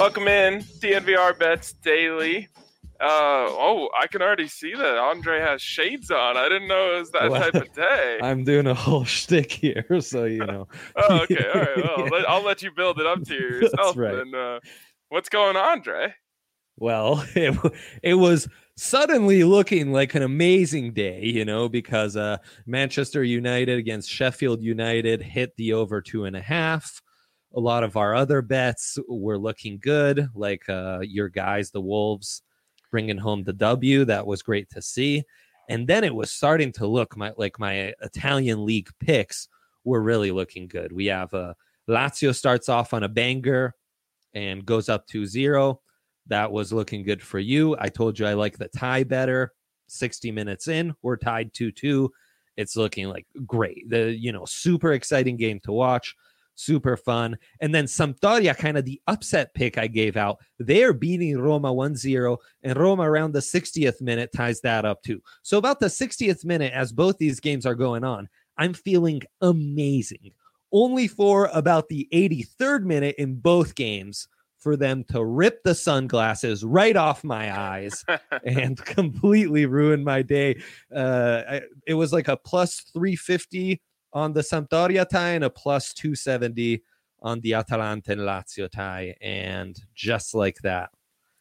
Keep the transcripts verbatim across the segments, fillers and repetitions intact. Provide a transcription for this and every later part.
Welcome in, D N V R Bets Daily. Uh, oh, I can already see that Andre has shades on. I didn't know it was that Well, type of day. I'm doing a whole shtick here, so you know. Oh, okay, all right. Well, let, I'll let you build it up to yourself. That's right. And uh, what's going on, Andre? Well, it, it was suddenly looking like an amazing day, you know, because uh, Manchester United against Sheffield United hit the over two and a half. A lot of our other bets were looking good, like uh, your guys, the Wolves, bringing home the W. That was great to see. And then it was starting to look my, like my Italian league picks were really looking good. We have uh, Lazio starts off on a banger and goes up two zero. That was looking good for you. I told you I like the tie better. sixty minutes in, we're tied two two. It's looking like great. The, you know, super exciting game to watch. Super fun. And then Sampdoria, kind of the upset pick I gave out. They're beating Roma one zero, and Roma around the sixtieth minute ties that up too. So about the sixtieth minute, as both these games are going on, I'm feeling amazing. Only for about the eighty-third minute in both games for them to rip the sunglasses right off my eyes and completely ruin my day. Uh, I, it was like a plus three fifty on the Sampdoria tie and a plus two seventy on the Atalanta and Lazio tie. And just like that,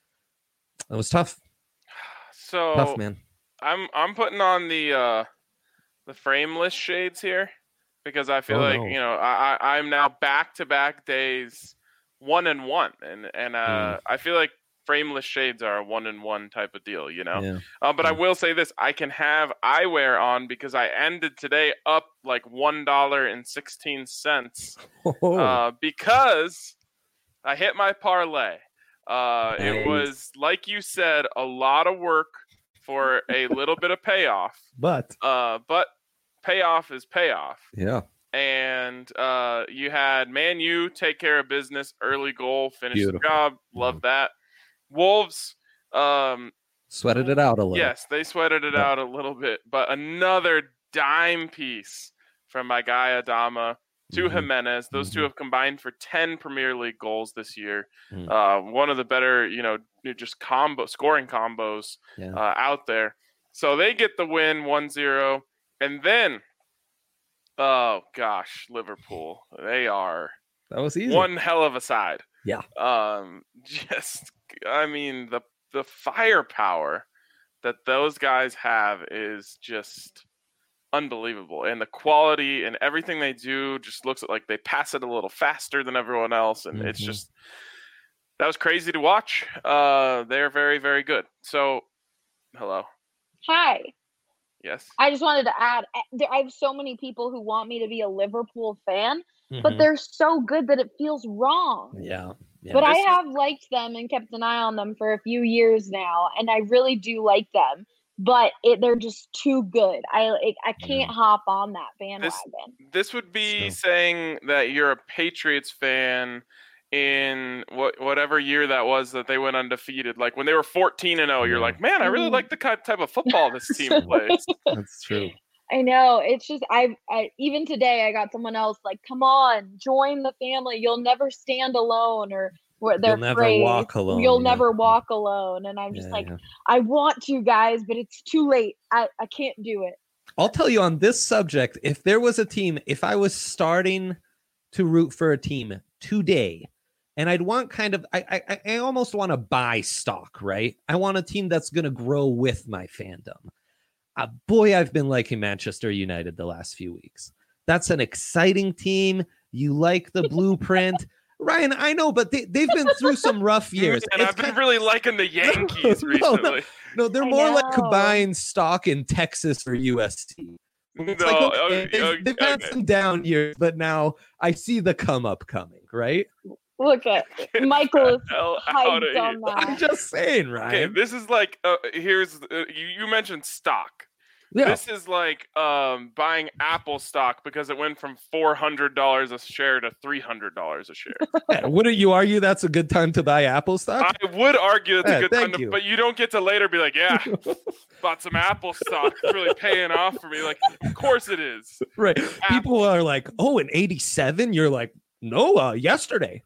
it was tough. So tough, man. I'm I'm putting on the uh, the frameless shades here because I feel oh, like no. you know I, I I'm now back to back days one and one, and and uh, mm. I feel like frameless shades are a one and one type of deal, you know. Yeah. Uh, but yeah. I will say this: I can have eyewear on because I ended today up like one dollar and sixteen cents oh. uh, because I hit my parlay. Uh, nice. It was, like you said, a lot of work for a little bit of payoff. But uh, but payoff is payoff. Yeah. And uh, you had Man U take care of business, early goal, finish Beautiful. the job. Love mm-hmm. that. Wolves um, sweated it out a little. Yes, they sweated it yeah. out a little bit. But another dime piece from my guy Adama to mm-hmm. Jimenez. Those mm-hmm. two have combined for ten Premier League goals this year. Mm-hmm. Uh, one of the better, you know, just combo scoring combos yeah. uh, out there. So they get the win one zero. And then, oh gosh, Liverpool. They are that was easy. One hell of a side. Yeah. Um, just, I mean, the the firepower that those guys have is just unbelievable, and the quality and everything they do just looks like they pass it a little faster than everyone else, and mm-hmm. it's just that was crazy to watch. Uh, they're very, very good. So, hello. Hi. Yes. I just wanted to add, I have so many people who want me to be a Liverpool fan, mm-hmm. but they're so good that it feels wrong. Yeah. yeah. But this I is... have liked them and kept an eye on them for a few years now, and I really do like them. But it, they're just too good. I it, I can't yeah. hop on that bandwagon. This, this would be so. saying that you're a Patriots fan in what whatever year that was that they went undefeated. Like when they were fourteen and oh, you're like, man, I really like the type of football this team plays. That's true. I know. It's just I, I even today I got someone else like, come on, join the family. You'll never stand alone, or they're You'll never phrase, walk alone. You'll yeah. never walk alone. And I'm just yeah, like, yeah. I want to, guys, but it's too late. I, I can't do it. I'll tell you on this subject, if there was a team, if I was starting to root for a team today, and I'd want kind of, I I, I almost want to buy stock, right? I want a team that's going to grow with my fandom. Uh, boy, I've been liking Manchester United the last few weeks. That's an exciting team. You like the blueprint. Ryan, I know, but they, they've been through some rough years. And it's I've been kind... really liking the Yankees no, recently. No, no they're I more know. like combined stock in Texas or U S T. It's no, like, okay, okay, they've, okay, they've had okay. some down years, but now I see the come up coming, right? Look at Michael is hyped on that. I'm just saying, Ryan. Okay, this is like, uh, here's, uh, you, you mentioned stock. Yeah. This is like um, buying Apple stock because it went from four hundred dollars a share to three hundred dollars a share. Yeah, wouldn't you argue that's a good time to buy Apple stock? I would argue it's yeah, a good time, to, you. but you don't get to later be like, yeah, bought some Apple stock. It's really paying off for me. Like, of course it is. Right. Apple. People are like, oh, in eighty-seven? You're like, no, uh, yesterday.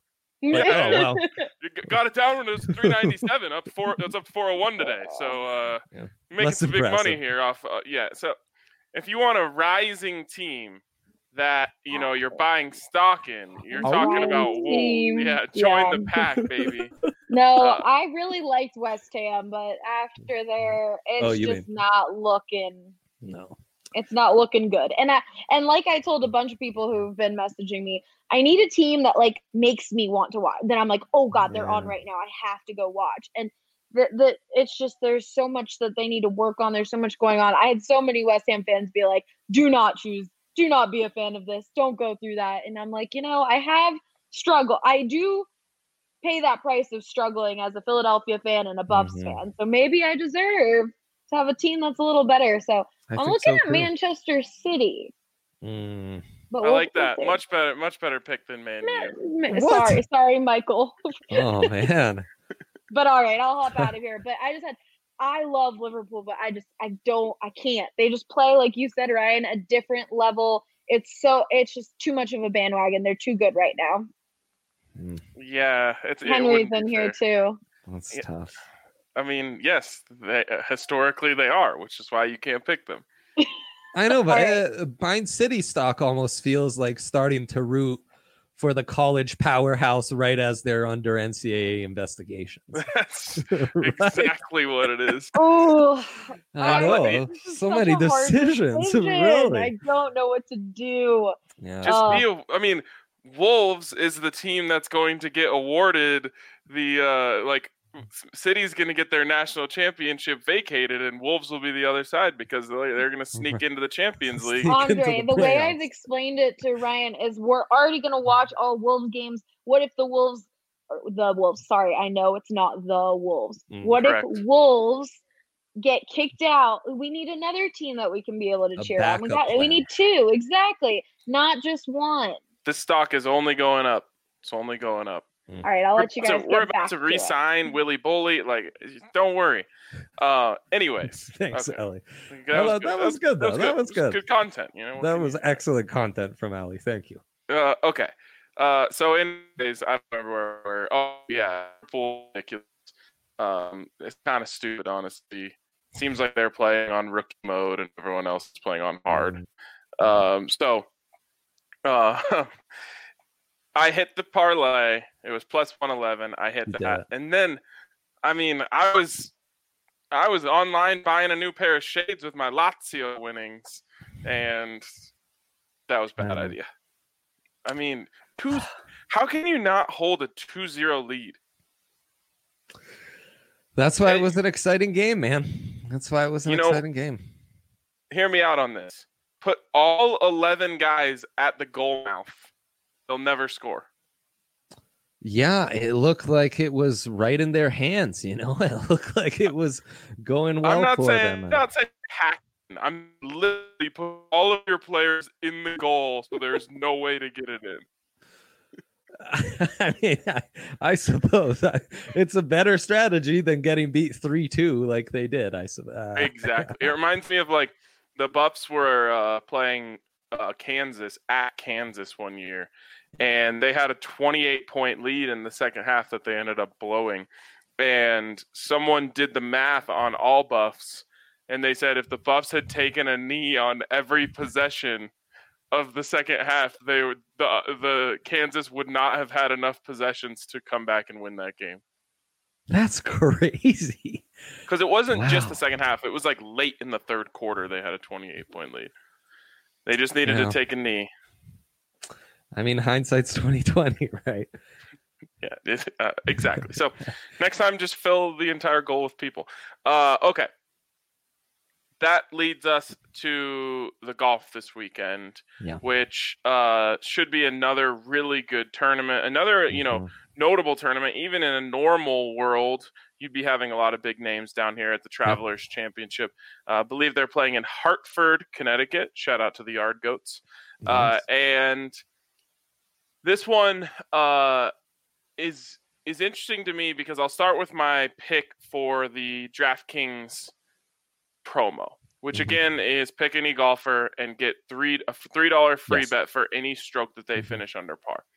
Like, oh well, you got it down when it was three ninety-seven. Up four. It's up four oh one today. So uh, Yeah. making Less some big impressive. money here off. Uh, yeah. So if you want a rising team that you know you're buying stock in, you're A talking rising about Wolves. team, Yeah, join yeah. the pack, baby. No, Uh, I really liked West Ham, but after there, it's Oh, you just mean- not looking. no. It's not looking good. And I and like I told a bunch of people who've been messaging me, I need a team that like makes me want to watch. Then I'm like, oh God, they're on Yeah. right now. I have to go watch. And the the it's just there's so much that they need to work on. There's so much going on. I had so many West Ham fans be like, do not choose, do not be a fan of this. Don't go through that. And I'm like, you know, I have struggled. I do pay that price of struggling as a Philadelphia fan and a Buffs Mhm. fan. So maybe I deserve to have a team that's a little better. So I I'm think looking so, at too. Manchester City. Mm. But I we'll- like we'll that. see. Much better. Much better pick than Man U. Ma- ma- What? Sorry, sorry, Michael. Oh man. But all right, I'll hop out of here. But I just had, I love Liverpool, but I just, I don't, I can't. They just play, like you said, Ryan, a different level. It's so, it's just too much of a bandwagon. They're too good right now. Mm, Yeah, it's it Henry's wouldn't be in here fair. too. that's Yeah. tough. I mean, yes, they, uh, historically they are, which is why you can't pick them. I know, but All uh, Bind City stock almost feels like starting to root for the college powerhouse right as they're under N C double A investigations. That's Right? exactly what it is. Oh, I I- know. this is So such many a hard decisions. decision. Really. I don't know what to do. Yeah. Just Uh, be a, I mean, Wolves is the team that's going to get awarded the uh like City's going to get their national championship vacated, and Wolves will be the other side because they're, they're going to sneak into the Champions League. Sneak into Andre, the the way I've playoffs. explained it to Ryan is we're already going to watch all Wolves games. What if the Wolves, or the Wolves, sorry, I know it's not the Wolves. Mm, what correct. if Wolves get kicked out? We need another team that we can be able to A cheer on. We backup got, we plan. need two, exactly, not just one. This stock is only going up. It's only going up. All right, I'll let you So guys we're get about back to to it. re-sign Willie Boley. Like, don't worry. Uh, anyways, Thanks, okay. Ellie. That, Well, was that was good, though. That was It good. Good content. You know. What That can was you- excellent content from Allie. Thank you. Uh, okay. Uh, so anyways, I don't remember where. where oh yeah, full ridiculous. Um, it's kind of stupid, honestly. Seems like they're playing on rookie mode and everyone else is playing on hard. Mm. Um, so, uh, I hit the parlay. It was plus one eleven. I hit You did that, it. and then, I mean, I was, I was online buying a new pair of shades with my Lazio winnings, and that was a bad Man. idea. I mean, two. How can you not hold a two zero lead? That's why it Hey. was an exciting game, man. That's why it was an You know- exciting game. Hear me out on this. Put all eleven guys at the goal mouth. They'll never score. Yeah, it looked like it was right in their hands. You know, it looked like it was going well I'm not for saying them. I'm not saying hack. I'm literally put all of your players in the goal, so there's no way to get it in. I mean, I, I suppose I, it's a better strategy than getting beat three two like they did. I suppose. Uh, Exactly. It reminds me of like the Buffs were uh, playing uh, Kansas at Kansas one year, and they had a twenty-eight point lead in the second half that they ended up blowing. And someone did the math on all Buffs, and they said if the Buffs had taken a knee on every possession of the second half, they would the the Kansas would not have had enough possessions to come back and win that game. That's crazy. Because it wasn't just Wow. the second half; it was like late in the third quarter. They had a twenty-eight point lead. They just needed Yeah. to take a knee. I mean, hindsight's twenty twenty, right? Yeah, it- uh, exactly. So next time, just fill the entire goal with people. Uh, okay. That leads us to the golf this weekend, Yeah. which uh, should be another really good tournament. Another, you know, Mhm. notable tournament. Even in a normal world, you'd be having a lot of big names down here at the Travelers Championship. Uh, I believe they're playing in Hartford, Connecticut. Shout out to the Yard Goats. Uh, Nice. and this one uh, is is interesting to me because I'll start with my pick for the DraftKings promo, which Mhm. again is pick any golfer and get three a three dollar free Yes. bet for any stroke that they Mhm. finish under par.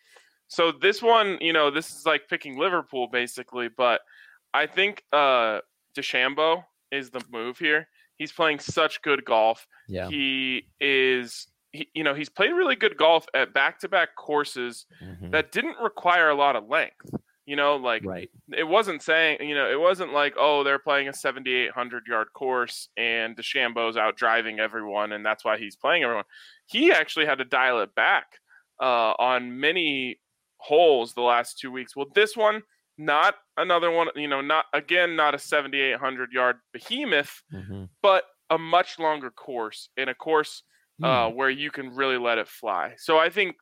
So this one, you know, this is like picking Liverpool basically, but I think uh, DeChambeau is the move here. He's playing such good golf. Yeah. He is, he, you know, he's played really good golf at back-to-back courses mm-hmm. that didn't require a lot of length. You know, like right. it wasn't saying, you know, it wasn't like, oh, they're playing a seventy-eight hundred yard course and DeChambeau's out driving everyone and that's why he's playing everyone. He actually had to dial it back uh, on many holes the last two weeks. Well, this one, not another one, you know, not again, not a seventy-eight hundred yard behemoth, mm-hmm. but a much longer course in a course uh, mm. where you can really let it fly. So I think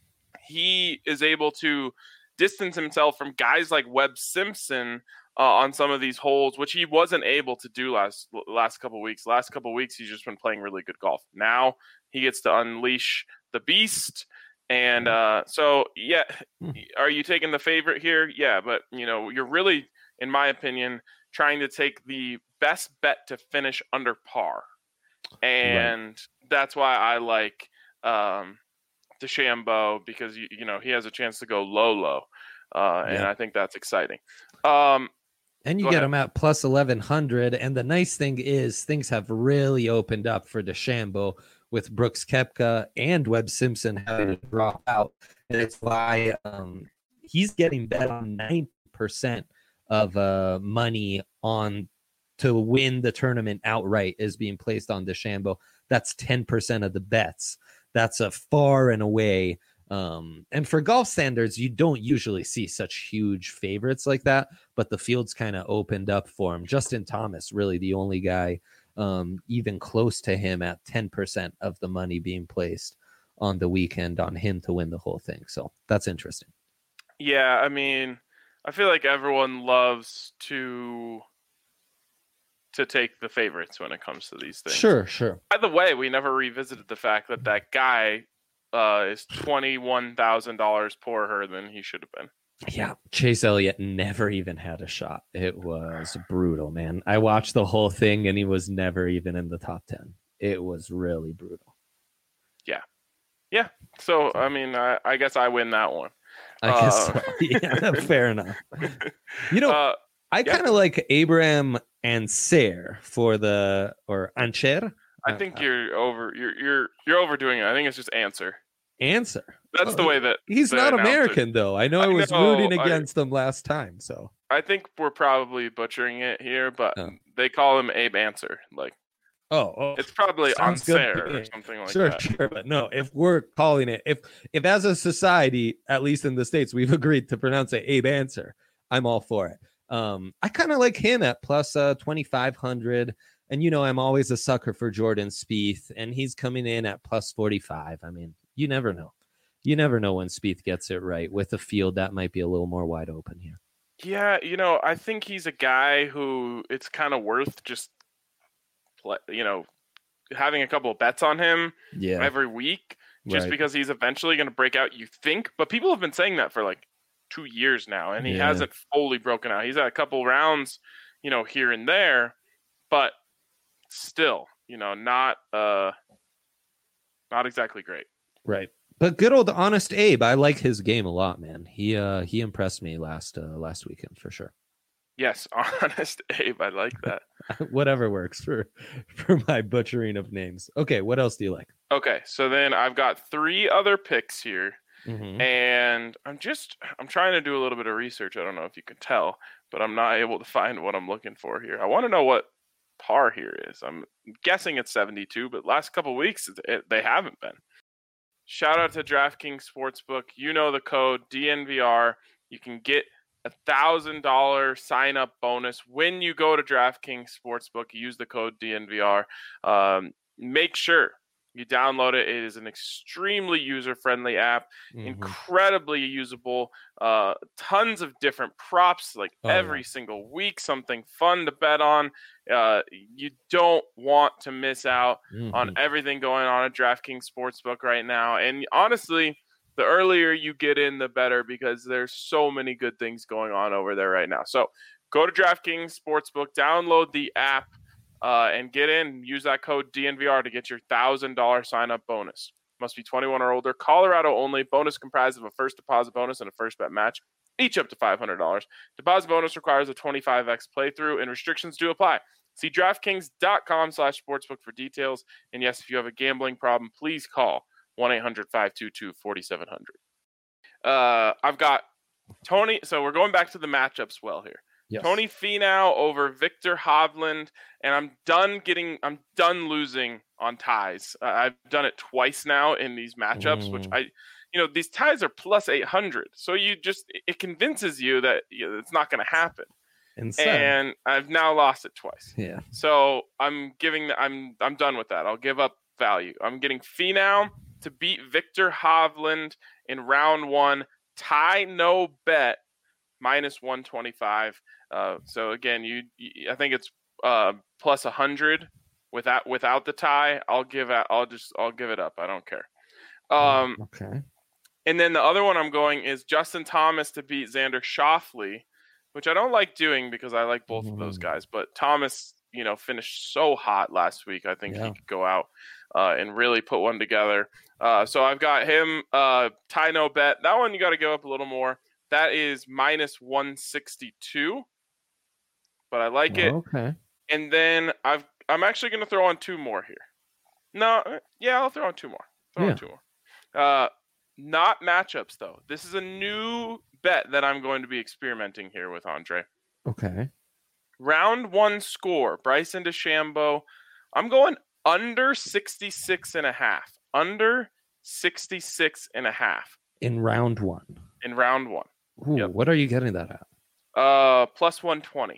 he is able to distance himself from guys like Webb Simpson uh, on some of these holes, which he wasn't able to do last last couple of weeks. Last couple of weeks, he's just been playing really good golf. Now he gets to unleash the beast. And uh, so, yeah, are you taking the favorite here? Yeah, but, you know, you're really, in my opinion, trying to take the best bet to finish under par. And right. that's why I like um, DeChambeau because, you, you know, he has a chance to go low, low. Uh, and yeah. I think that's exciting. Um, and you get ahead. him at plus eleven hundred. And the nice thing is things have really opened up for DeChambeau with Brooks Koepka and Webb Simpson having to drop out. And it's why um, he's getting bet on ninety percent of uh, money on to win the tournament outright is being placed on DeChambeau. That's ten percent of the bets. That's a far and away. Um, and for golf standards, you don't usually see such huge favorites like that, but the field's kind of opened up for him. Justin Thomas, really the only guy um, even close to him at ten percent of the money being placed on the weekend on him to win the whole thing. So that's interesting. Yeah. I mean, I feel like everyone loves to, to take the favorites when it comes to these things. Sure. Sure. By the way, we never revisited the fact that that guy uh, is twenty-one thousand dollars poorer than he should have been. Yeah, Chase Elliott never even had a shot. It was brutal, man. I watched the whole thing, and he was never even in the top ten. It was really brutal. Yeah. Yeah. So, I mean, I, I guess I win that one. I guess uh, so. Yeah, fair enough. You know, uh, I yeah. kind of like Abraham Ancer for the, or Ancher. I think uh, you're over, you're, you're, you're overdoing it. I think it's just answer. Answer. That's oh, the way that he's not American it. though. I know I, I was know, rooting against I, them last time. So I think we're probably butchering it here, but oh. they call him Abe Answer. Like, oh, oh it's probably unfair or something like sure, that. Sure, sure. But no, if we're calling it, if if as a society, at least in the States, we've agreed to pronounce it Abe Answer, I'm all for it. Um, I kind of like him at plus uh twenty-five hundred. And you know, I'm always a sucker for Jordan Spieth, and he's coming in at plus forty-five. I mean, you never know. You never know when Spieth gets it right with a field that might be a little more wide open here. Yeah, you know, I think he's a guy who it's kind of worth just, you know, having a couple of bets on him yeah. every week, just right. because he's eventually going to break out, you think. But people have been saying that for like two years now, and he yeah. hasn't fully broken out. He's had a couple rounds, you know, here and there, but still, you know, not uh, not exactly great. Right. But good old Honest Abe, I like his game a lot, man. He uh he impressed me last uh, last weekend for sure. Yes, Honest Abe, I like that. Whatever works for for my butchering of names. Okay, what else do you like? Okay, so then I've got three other picks here, mm-hmm. and I'm just I'm trying to do a little bit of research. I don't know if you can tell, but I'm not able to find what I'm looking for here. I want to know what par here is. I'm guessing it's seventy-two, but last couple of weeks it, they haven't been. Shout out to DraftKings Sportsbook. You know the code D N V R. You can get a one thousand dollars sign-up bonus when you go to DraftKings Sportsbook. Use the code D N V R. Um, make sure you download it. It is an extremely user-friendly app, mm-hmm. incredibly usable, uh, tons of different props, like oh, every yeah. single week, something fun to bet on. Uh, you don't want to miss out mm-hmm. on everything going on at DraftKings Sportsbook right now. And honestly, the earlier you get in, the better, because there's so many good things going on over there right now. So go to DraftKings Sportsbook, download the app, Uh, and get in, use that code D N V R to get your one thousand dollars sign-up bonus. Must be twenty-one or older. Colorado only. Bonus comprised of a first deposit bonus and a first bet match, each up to five hundred dollars. Deposit bonus requires a twenty-five x playthrough, and restrictions do apply. See DraftKings.com slash sportsbook for details. And yes, if you have a gambling problem, please call one eight hundred five two two four seven zero zero. Uh, I've got Tony. So we're going back to the matchups well here. Yes. Tony Finau over Victor Hovland, and I'm done getting. I'm done losing on ties. Uh, I've done it twice now in these matchups, mm. which I, you know, these ties are plus eight hundred. So you just it convinces you that you know, it's not going to happen. Insane. And I've now lost it twice. Yeah. So I'm giving. I'm I'm done with that. I'll give up value. I'm getting Finau to beat Victor Hovland in round one. Tie no bet minus one twenty-five. Uh, so again, you, you I think it's uh, plus one hundred without without the tie. I'll give it. I'll just I'll give it up. I don't care. Um, okay. And then the other one I'm going is Justin Thomas to beat Xander Schauffele, which I don't like doing because I like both mm. of those guys. But Thomas, you know, finished so hot last week. I think yeah. he could go out uh, and really put one together. Uh, so I've got him uh, tie no bet. That one you got to go up a little more. That is minus one sixty-two. But I like it. Okay. And then I've I'm actually going to throw on two more here. No, yeah, I'll throw on two more. Throw yeah. on two more. Uh, not matchups though. This is a new bet that I'm going to be experimenting here with Andre. Okay. Round one score, Bryson DeChambeau. I'm going under sixty-six and a half. Under sixty-six and a half. In round one. In round one. Ooh, yep. What are you getting that at? Uh, plus one twenty.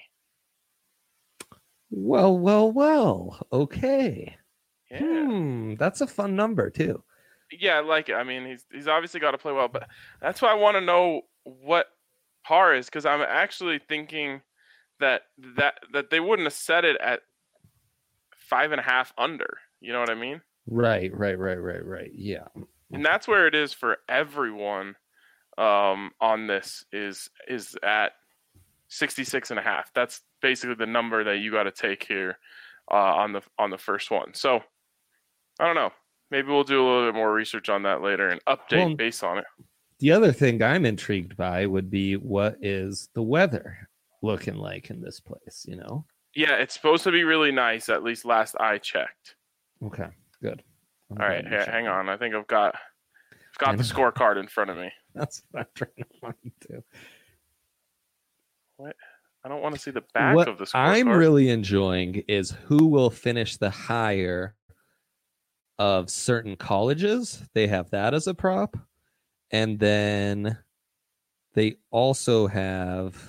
Well, well, well. Okay. Yeah. Hmm, that's a fun number too. Yeah, I like it. I mean, he's he's obviously got to play well, but that's why I want to know what par is, because I'm actually thinking that that that they wouldn't have set it at five and a half under. You know what I mean? Right, right, right, right, right. Yeah. And that's where it is for everyone um, on this is is at sixty-six and a half. That's basically the number that you got to take here uh, on the on the first one. So I don't know. Maybe we'll do a little bit more research on that later and update well, based on it. The other thing I'm intrigued by would be what is the weather looking like in this place, you know? Yeah, it's supposed to be really nice, at least last I checked. Okay, good. I'm All right, hey, hang on. I think I've got I've got the scorecard in front of me. That's what I'm trying to find too. What? I don't want to see the back what of the scorecard. I'm really enjoying is who will finish the higher of certain colleges. They have that as a prop. And then they also have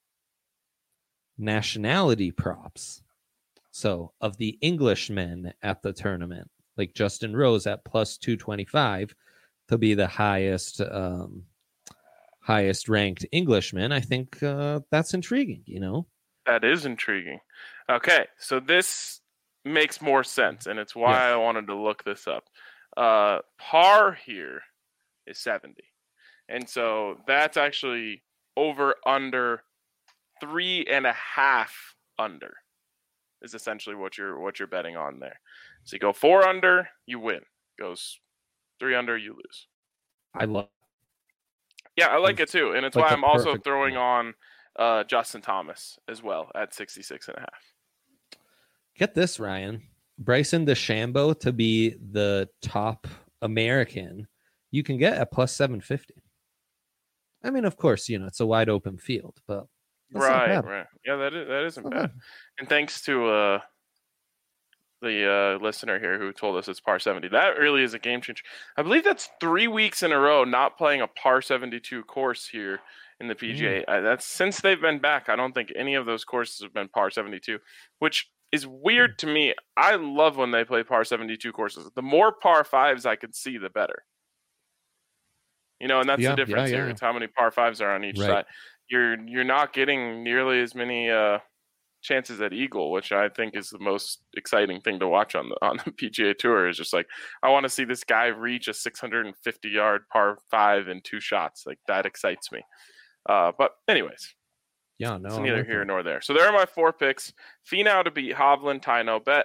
nationality props. So of the Englishmen at the tournament, like Justin Rose at plus two twenty-five to be the highest um, highest ranked Englishman, I think uh, that's intriguing, you know? That is intriguing. Okay, so this makes more sense, and it's why yeah. I wanted to look this up. Uh, par here is seventy. And so that's actually over under three and a half under is essentially what you're what you're betting on there. So you go four under, you win. Goes three under, you lose. I love Yeah, I like it too. And it's like why I'm also throwing on uh, Justin Thomas as well at sixty-six and a half. Get this, Ryan. Bryson DeChambeau to be the top American, you can get at plus seven fifty. I mean, of course, you know, it's a wide open field, but right, right. Yeah, that is, that isn't bad. And thanks to uh, the uh, listener here who told us it's par seventy. That really is a game changer. I believe that's three weeks in a row not playing a par seventy-two course here in the P G A. Mm. I, that's since they've been back. I don't think any of those courses have been par seventy-two, which is weird to me. I love when they play par seventy-two courses. The more par fives I can see, the better. You know, and that's yeah, the difference yeah, here. yeah. It's how many par fives are on each right. side. You're you're not getting nearly as many uh, chances at eagle, which I think is the most exciting thing to watch on the on the P G A Tour. Is just like, I want to see this guy reach a six hundred fifty yard par five in two shots. Like, that excites me. Uh, but anyways. Yeah, no, it's neither here nor there. So there are my four picks. Finau to beat Hovland, tie no bet.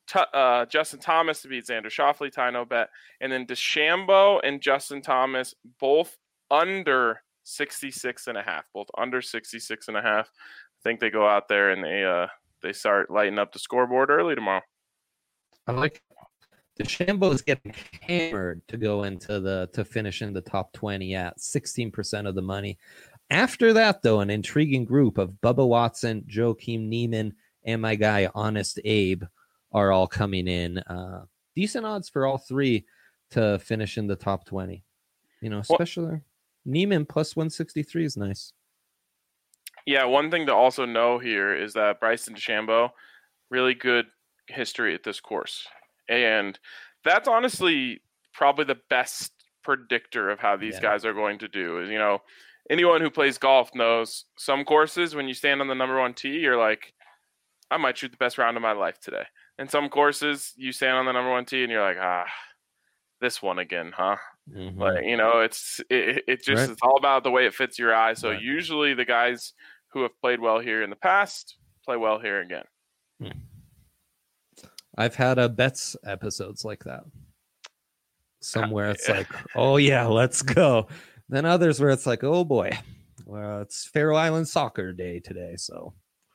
T- uh, Justin Thomas to beat Xander Schauffele, Ty No Bet, and then DeChambeau and Justin Thomas both under sixty-six and a half, both under sixty-six and a half. I think they go out there and they uh they start lighting up the scoreboard early tomorrow. I like DeChambeau is getting hammered to go into the to finish in the top twenty at sixteen percent of the money. After that, though, an intriguing group of Bubba Watson, Joaquin Niemann, and my guy Honest Abe are all coming in. Uh, decent odds for all three to finish in the top twenty. You know, especially well, Niemann plus one sixty-three is nice. Yeah, one thing to also know here is that Bryson DeChambeau, really good history at this course. And that's honestly probably the best predictor of how these yeah. guys are going to do. Is, you know, anyone who plays golf knows some courses, when you stand on the number one tee, you're like, I might shoot the best round of my life today. And some courses, you stand on the number one tee and you're like, ah, this one again, huh? Mm-hmm. Like, you know, it's it, it just right. it's all about the way it fits your eye. So right. usually the guys who have played well here in the past play well here again. Hmm. I've had a bets episodes like that. Somewhere it's like, oh yeah, let's go. Then others where it's like, oh boy, well, it's Faroe Island soccer day today, so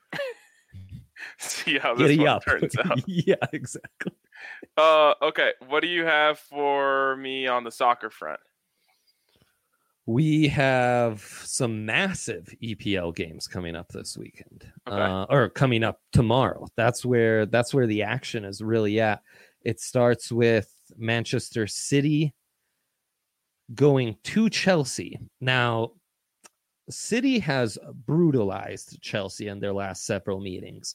see how this one turns out. Yeah, exactly. Uh, okay, what do you have for me on the soccer front? We have some massive E P L games coming up this weekend, okay. uh, or coming up tomorrow. That's where that's where the action is really at. It starts with Manchester City going to Chelsea. Now, City has brutalized Chelsea in their last several meetings,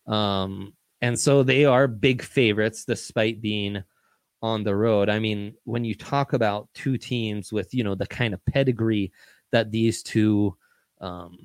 um, and so they are big favorites despite being on the road. I mean, when you talk about two teams with, you know, the kind of pedigree that these two um,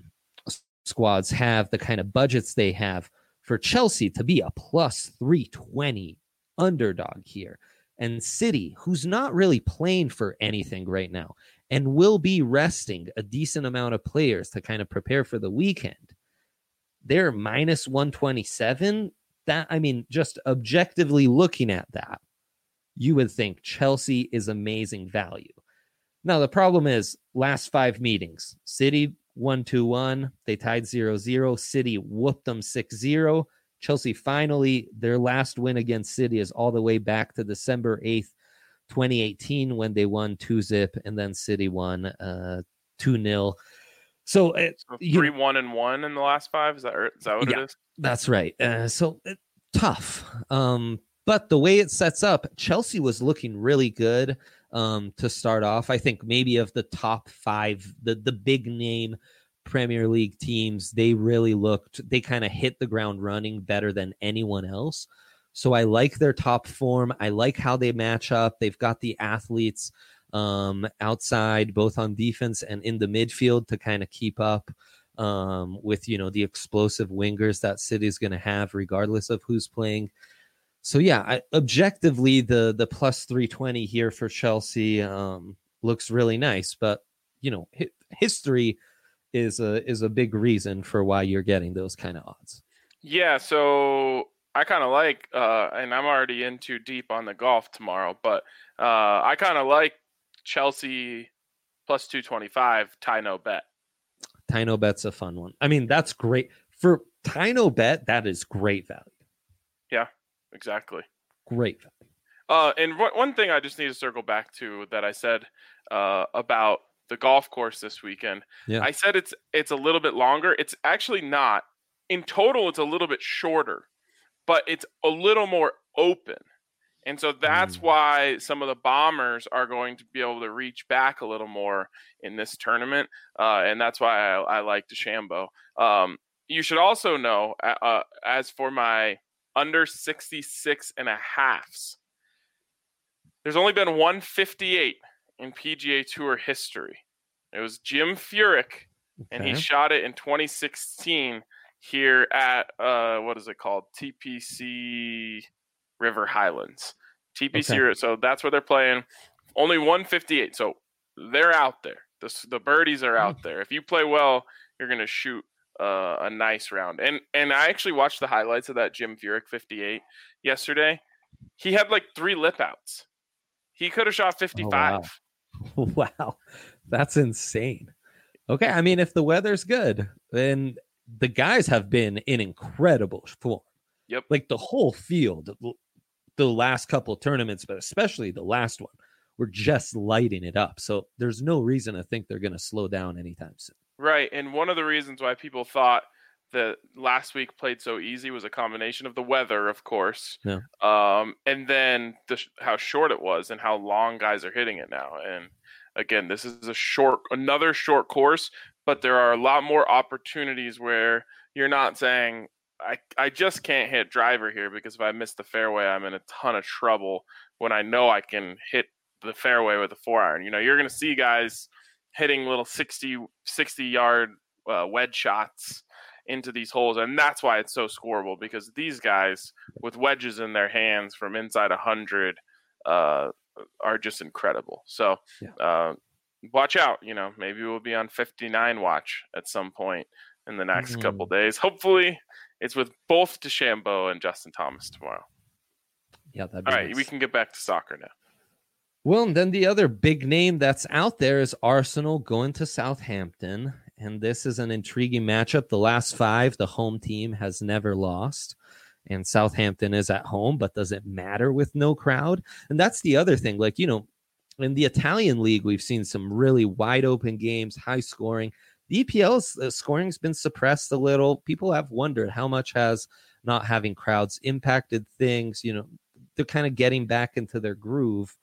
squads have, the kind of budgets they have, for Chelsea to be a plus three twenty underdog here, and City, who's not really playing for anything right now and will be resting a decent amount of players to kind of prepare for the weekend, they're minus one twenty-seven. That, I mean, just objectively looking at that, you would think Chelsea is amazing value. Now, the problem is last five meetings, City one two one, they tied zero zero, City whooped them six zero. Chelsea finally, their last win against City is all the way back to December eighth, twenty eighteen, when they won two zip, and then City won uh, two nil. So, uh, so three one and one in the last five. Is that, is that what yeah, it is? That's right. Uh, so uh, tough. Um, But the way it sets up, Chelsea was looking really good um, to start off. I think maybe of the top five, the, the big name Premier League teams, they really looked, they kind of hit the ground running better than anyone else. So I like their top form. I like how they match up. They've got the athletes um, outside, both on defense and in the midfield, to kind of keep up um, with, you know, the explosive wingers that City's going to have regardless of who's playing. So, yeah, I, objectively, the the plus three twenty here for Chelsea um, looks really nice. But, you know, hi- history is a, is a big reason for why you're getting those kind of odds. Yeah, so I kind of like, uh, and I'm already in too deep on the golf tomorrow, but uh, I kind of like Chelsea plus two twenty-five, Ty No Bet. Ty No Bet's a fun one. I mean, that's great. For Ty No Bet, that is great value. Yeah. Exactly. Great. Uh, and w- one thing I just need to circle back to that I said uh, about the golf course this weekend. Yeah. I said it's it's a little bit longer. It's actually not. In total, it's a little bit shorter, but it's a little more open. And so that's mm. why some of the bombers are going to be able to reach back a little more in this tournament. Uh, and that's why I, I like DeChambeau. Um, you should also know, uh, as for my under sixty-six and a halves, there's only been one fifty-eight in P G A Tour history. It was Jim Furyk, okay. and he shot it in twenty sixteen here at, uh, what is it called? T P C River Highlands. T P C, okay. So that's where they're playing. Only one fifty-eight, so they're out there. The, the birdies are out there. If you play well, you're going to shoot uh, a nice round. And and I actually watched the highlights of that Jim Furyk fifty-eight yesterday. He had like three lip outs. He could have shot fifty-five. Oh, wow. Wow, that's insane. Okay, I mean, if the weather's good, then the guys have been in incredible form. Yep. Like the whole field, the last couple of tournaments, but especially the last one, we're just lighting it up. So there's no reason to think they're going to slow down anytime soon. Right. And one of the reasons why people thought that last week played so easy was a combination of the weather, of course, yeah. um, and then the, how short it was and how long guys are hitting it now. And again, this is a short, another short course, but there are a lot more opportunities where you're not saying, I, I just can't hit driver here because if I miss the fairway, I'm in a ton of trouble when I know I can hit the fairway with a four iron. You know, you're going to see guys hitting little sixty, sixty yard uh, wedge shots into these holes. And that's why it's so scoreable, because these guys with wedges in their hands from inside one hundred uh, are just incredible. So yeah. uh, watch out. You know, maybe we'll be on fifty-nine watch at some point in the next mm-hmm. couple days. Hopefully it's with both DeChambeau and Justin Thomas tomorrow. Yeah, that'd be All nice. right, we can get back to soccer now. Well, and then the other big name that's out there is Arsenal going to Southampton. And this is an intriguing matchup. The last five, the home team has never lost. And Southampton is at home, but does it matter with no crowd? And that's the other thing. Like, you know, in the Italian league, we've seen some really wide open games, high scoring. The E P L's uh, scoring has been suppressed a little. People have wondered how much has not having crowds impacted things. You know, they're kind of getting back into their groove.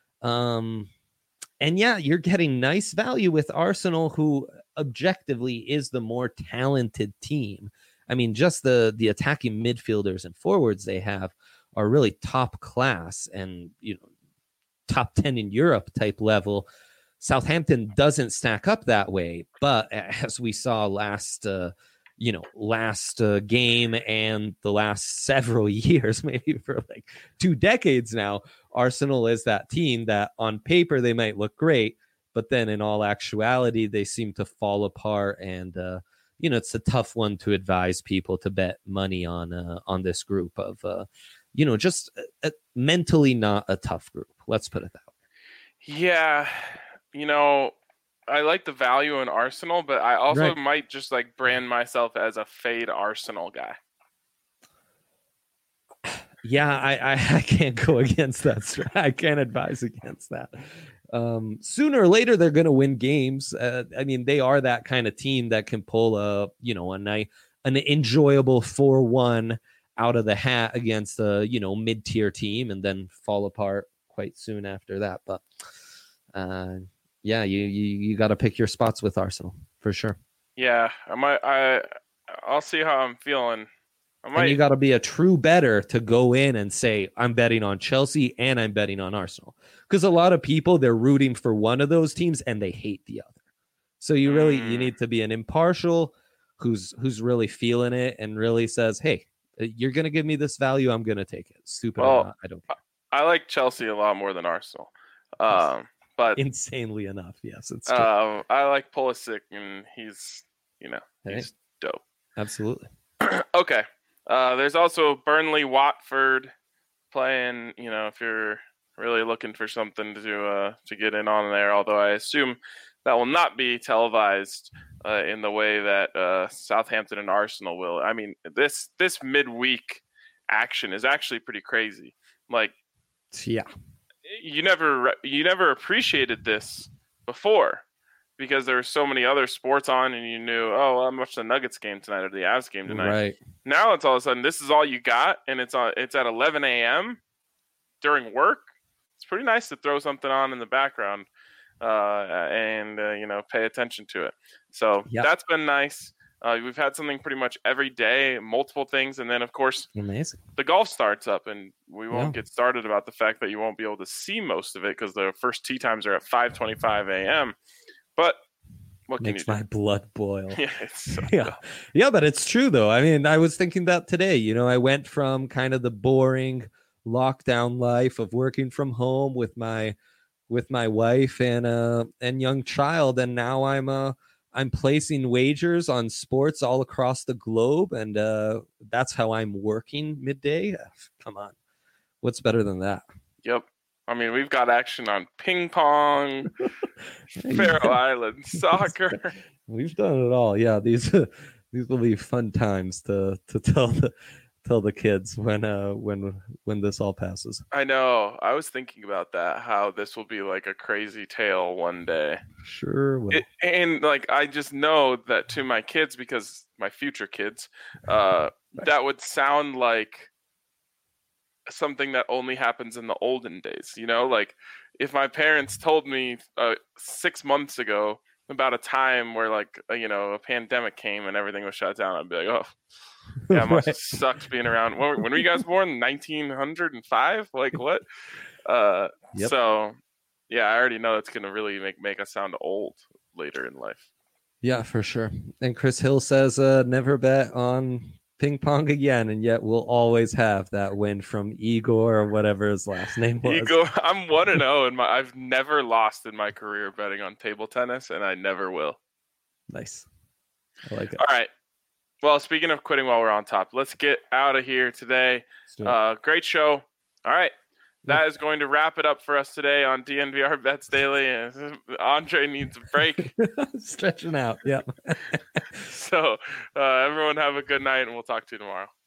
Um, and yeah, you're getting nice value with Arsenal, who objectively is the more talented team. I mean, just the the attacking midfielders and forwards they have are really top class and, you know, top ten in Europe type level. Southampton doesn't stack up that way, but as we saw last, uh, you know, last uh, game and the last several years, maybe for like two decades now, Arsenal is that team that on paper they might look great, but then in all actuality, they seem to fall apart. And, uh, you know, it's a tough one to advise people to bet money on, uh, on this group of, uh, you know, just a, a mentally not a tough group. Let's put it that way. Yeah. You know, I like the value in Arsenal, but I also right. might just like brand myself as a fade Arsenal guy. Yeah, I, I, I can't go against that. I can't advise against that. Um, sooner or later, they're going to win games. Uh, I mean, they are that kind of team that can pull a, you know, a nice, an enjoyable four one out of the hat against a, you know, mid-tier team and then fall apart quite soon after that. But uh, yeah, you you, you got to pick your spots with Arsenal for sure. Yeah, I might. I I'll see how I'm feeling. I might... And you got to be a true bettor to go in and say, I'm betting on Chelsea and I'm betting on Arsenal. Because a lot of people, they're rooting for one of those teams and they hate the other. So you really, mm. you need to be an impartial who's who's really feeling it and really says, hey, you're going to give me this value, I'm going to take it. Stupid well, or not, I don't care. I like Chelsea a lot more than Arsenal. Um, but insanely enough, yes. It's true. Um, I like Pulisic and he's, you know, hey. he's dope. Absolutely. Okay. Uh, there's also Burnley Watford playing, you know, if you're really looking for something to uh, to get in on there, although I assume that will not be televised uh, in the way that uh, Southampton and Arsenal will. I mean, this this midweek action is actually pretty crazy. Like, yeah, you never you never appreciated this before, because there were so many other sports on and you knew, oh, well, I'm watching the Nuggets game tonight or the Avs game tonight. Right. Now it's all of a sudden, this is all you got, and it's on, it's at eleven a.m. during work. It's pretty nice to throw something on in the background uh, and, uh, you know, pay attention to it. So yep. that's been nice. Uh, we've had something pretty much every day, multiple things. And then, of course, amazing. The golf starts up, and we won't yeah. get started about the fact that you won't be able to see most of it because the first tee times are at five twenty-five a.m. But what makes can my blood boil. Yeah, it's so yeah. yeah, but it's true though. I mean, I was thinking that today. You know, I went from kind of the boring lockdown life of working from home with my with my wife and uh and young child, and now I'm uh I'm placing wagers on sports all across the globe, and uh, that's how I'm working midday. Come on, what's better than that? Yep. I mean, we've got action on ping pong, Faroe Island soccer. We've done it all. Yeah, these these will be fun times to to tell the tell the kids when uh when when this all passes. I know. I was thinking about that. How this will be like a crazy tale one day. Sure will. It, and like I just know that to my kids, because my future kids, uh, Right. that would sound like something that only happens in the olden days. You know, like if my parents told me uh, six months ago about a time where like uh, you know a pandemic came and everything was shut down, I'd be like, oh, yeah, it must have Right. sucked being around. When, when were you guys born? nineteen oh five? Like what? Uh, Yep. So yeah, I already know it's gonna really make make us sound old later in life. Yeah, for sure. And Chris Hill says, uh, never bet on ping pong again, and yet we'll always have that win from Igor or whatever his last name was. Igor, I'm one and zero, and I've never lost in my career betting on table tennis, and I never will. Nice. I like it. All right. Well, speaking of quitting while we're on top, let's get out of here today. Let's do it. Uh, great show. All right. That is going to wrap it up for us today on D N V R Bets Daily. And Andre needs a break. Stretching out. Yeah. So uh, everyone have a good night, and we'll talk to you tomorrow.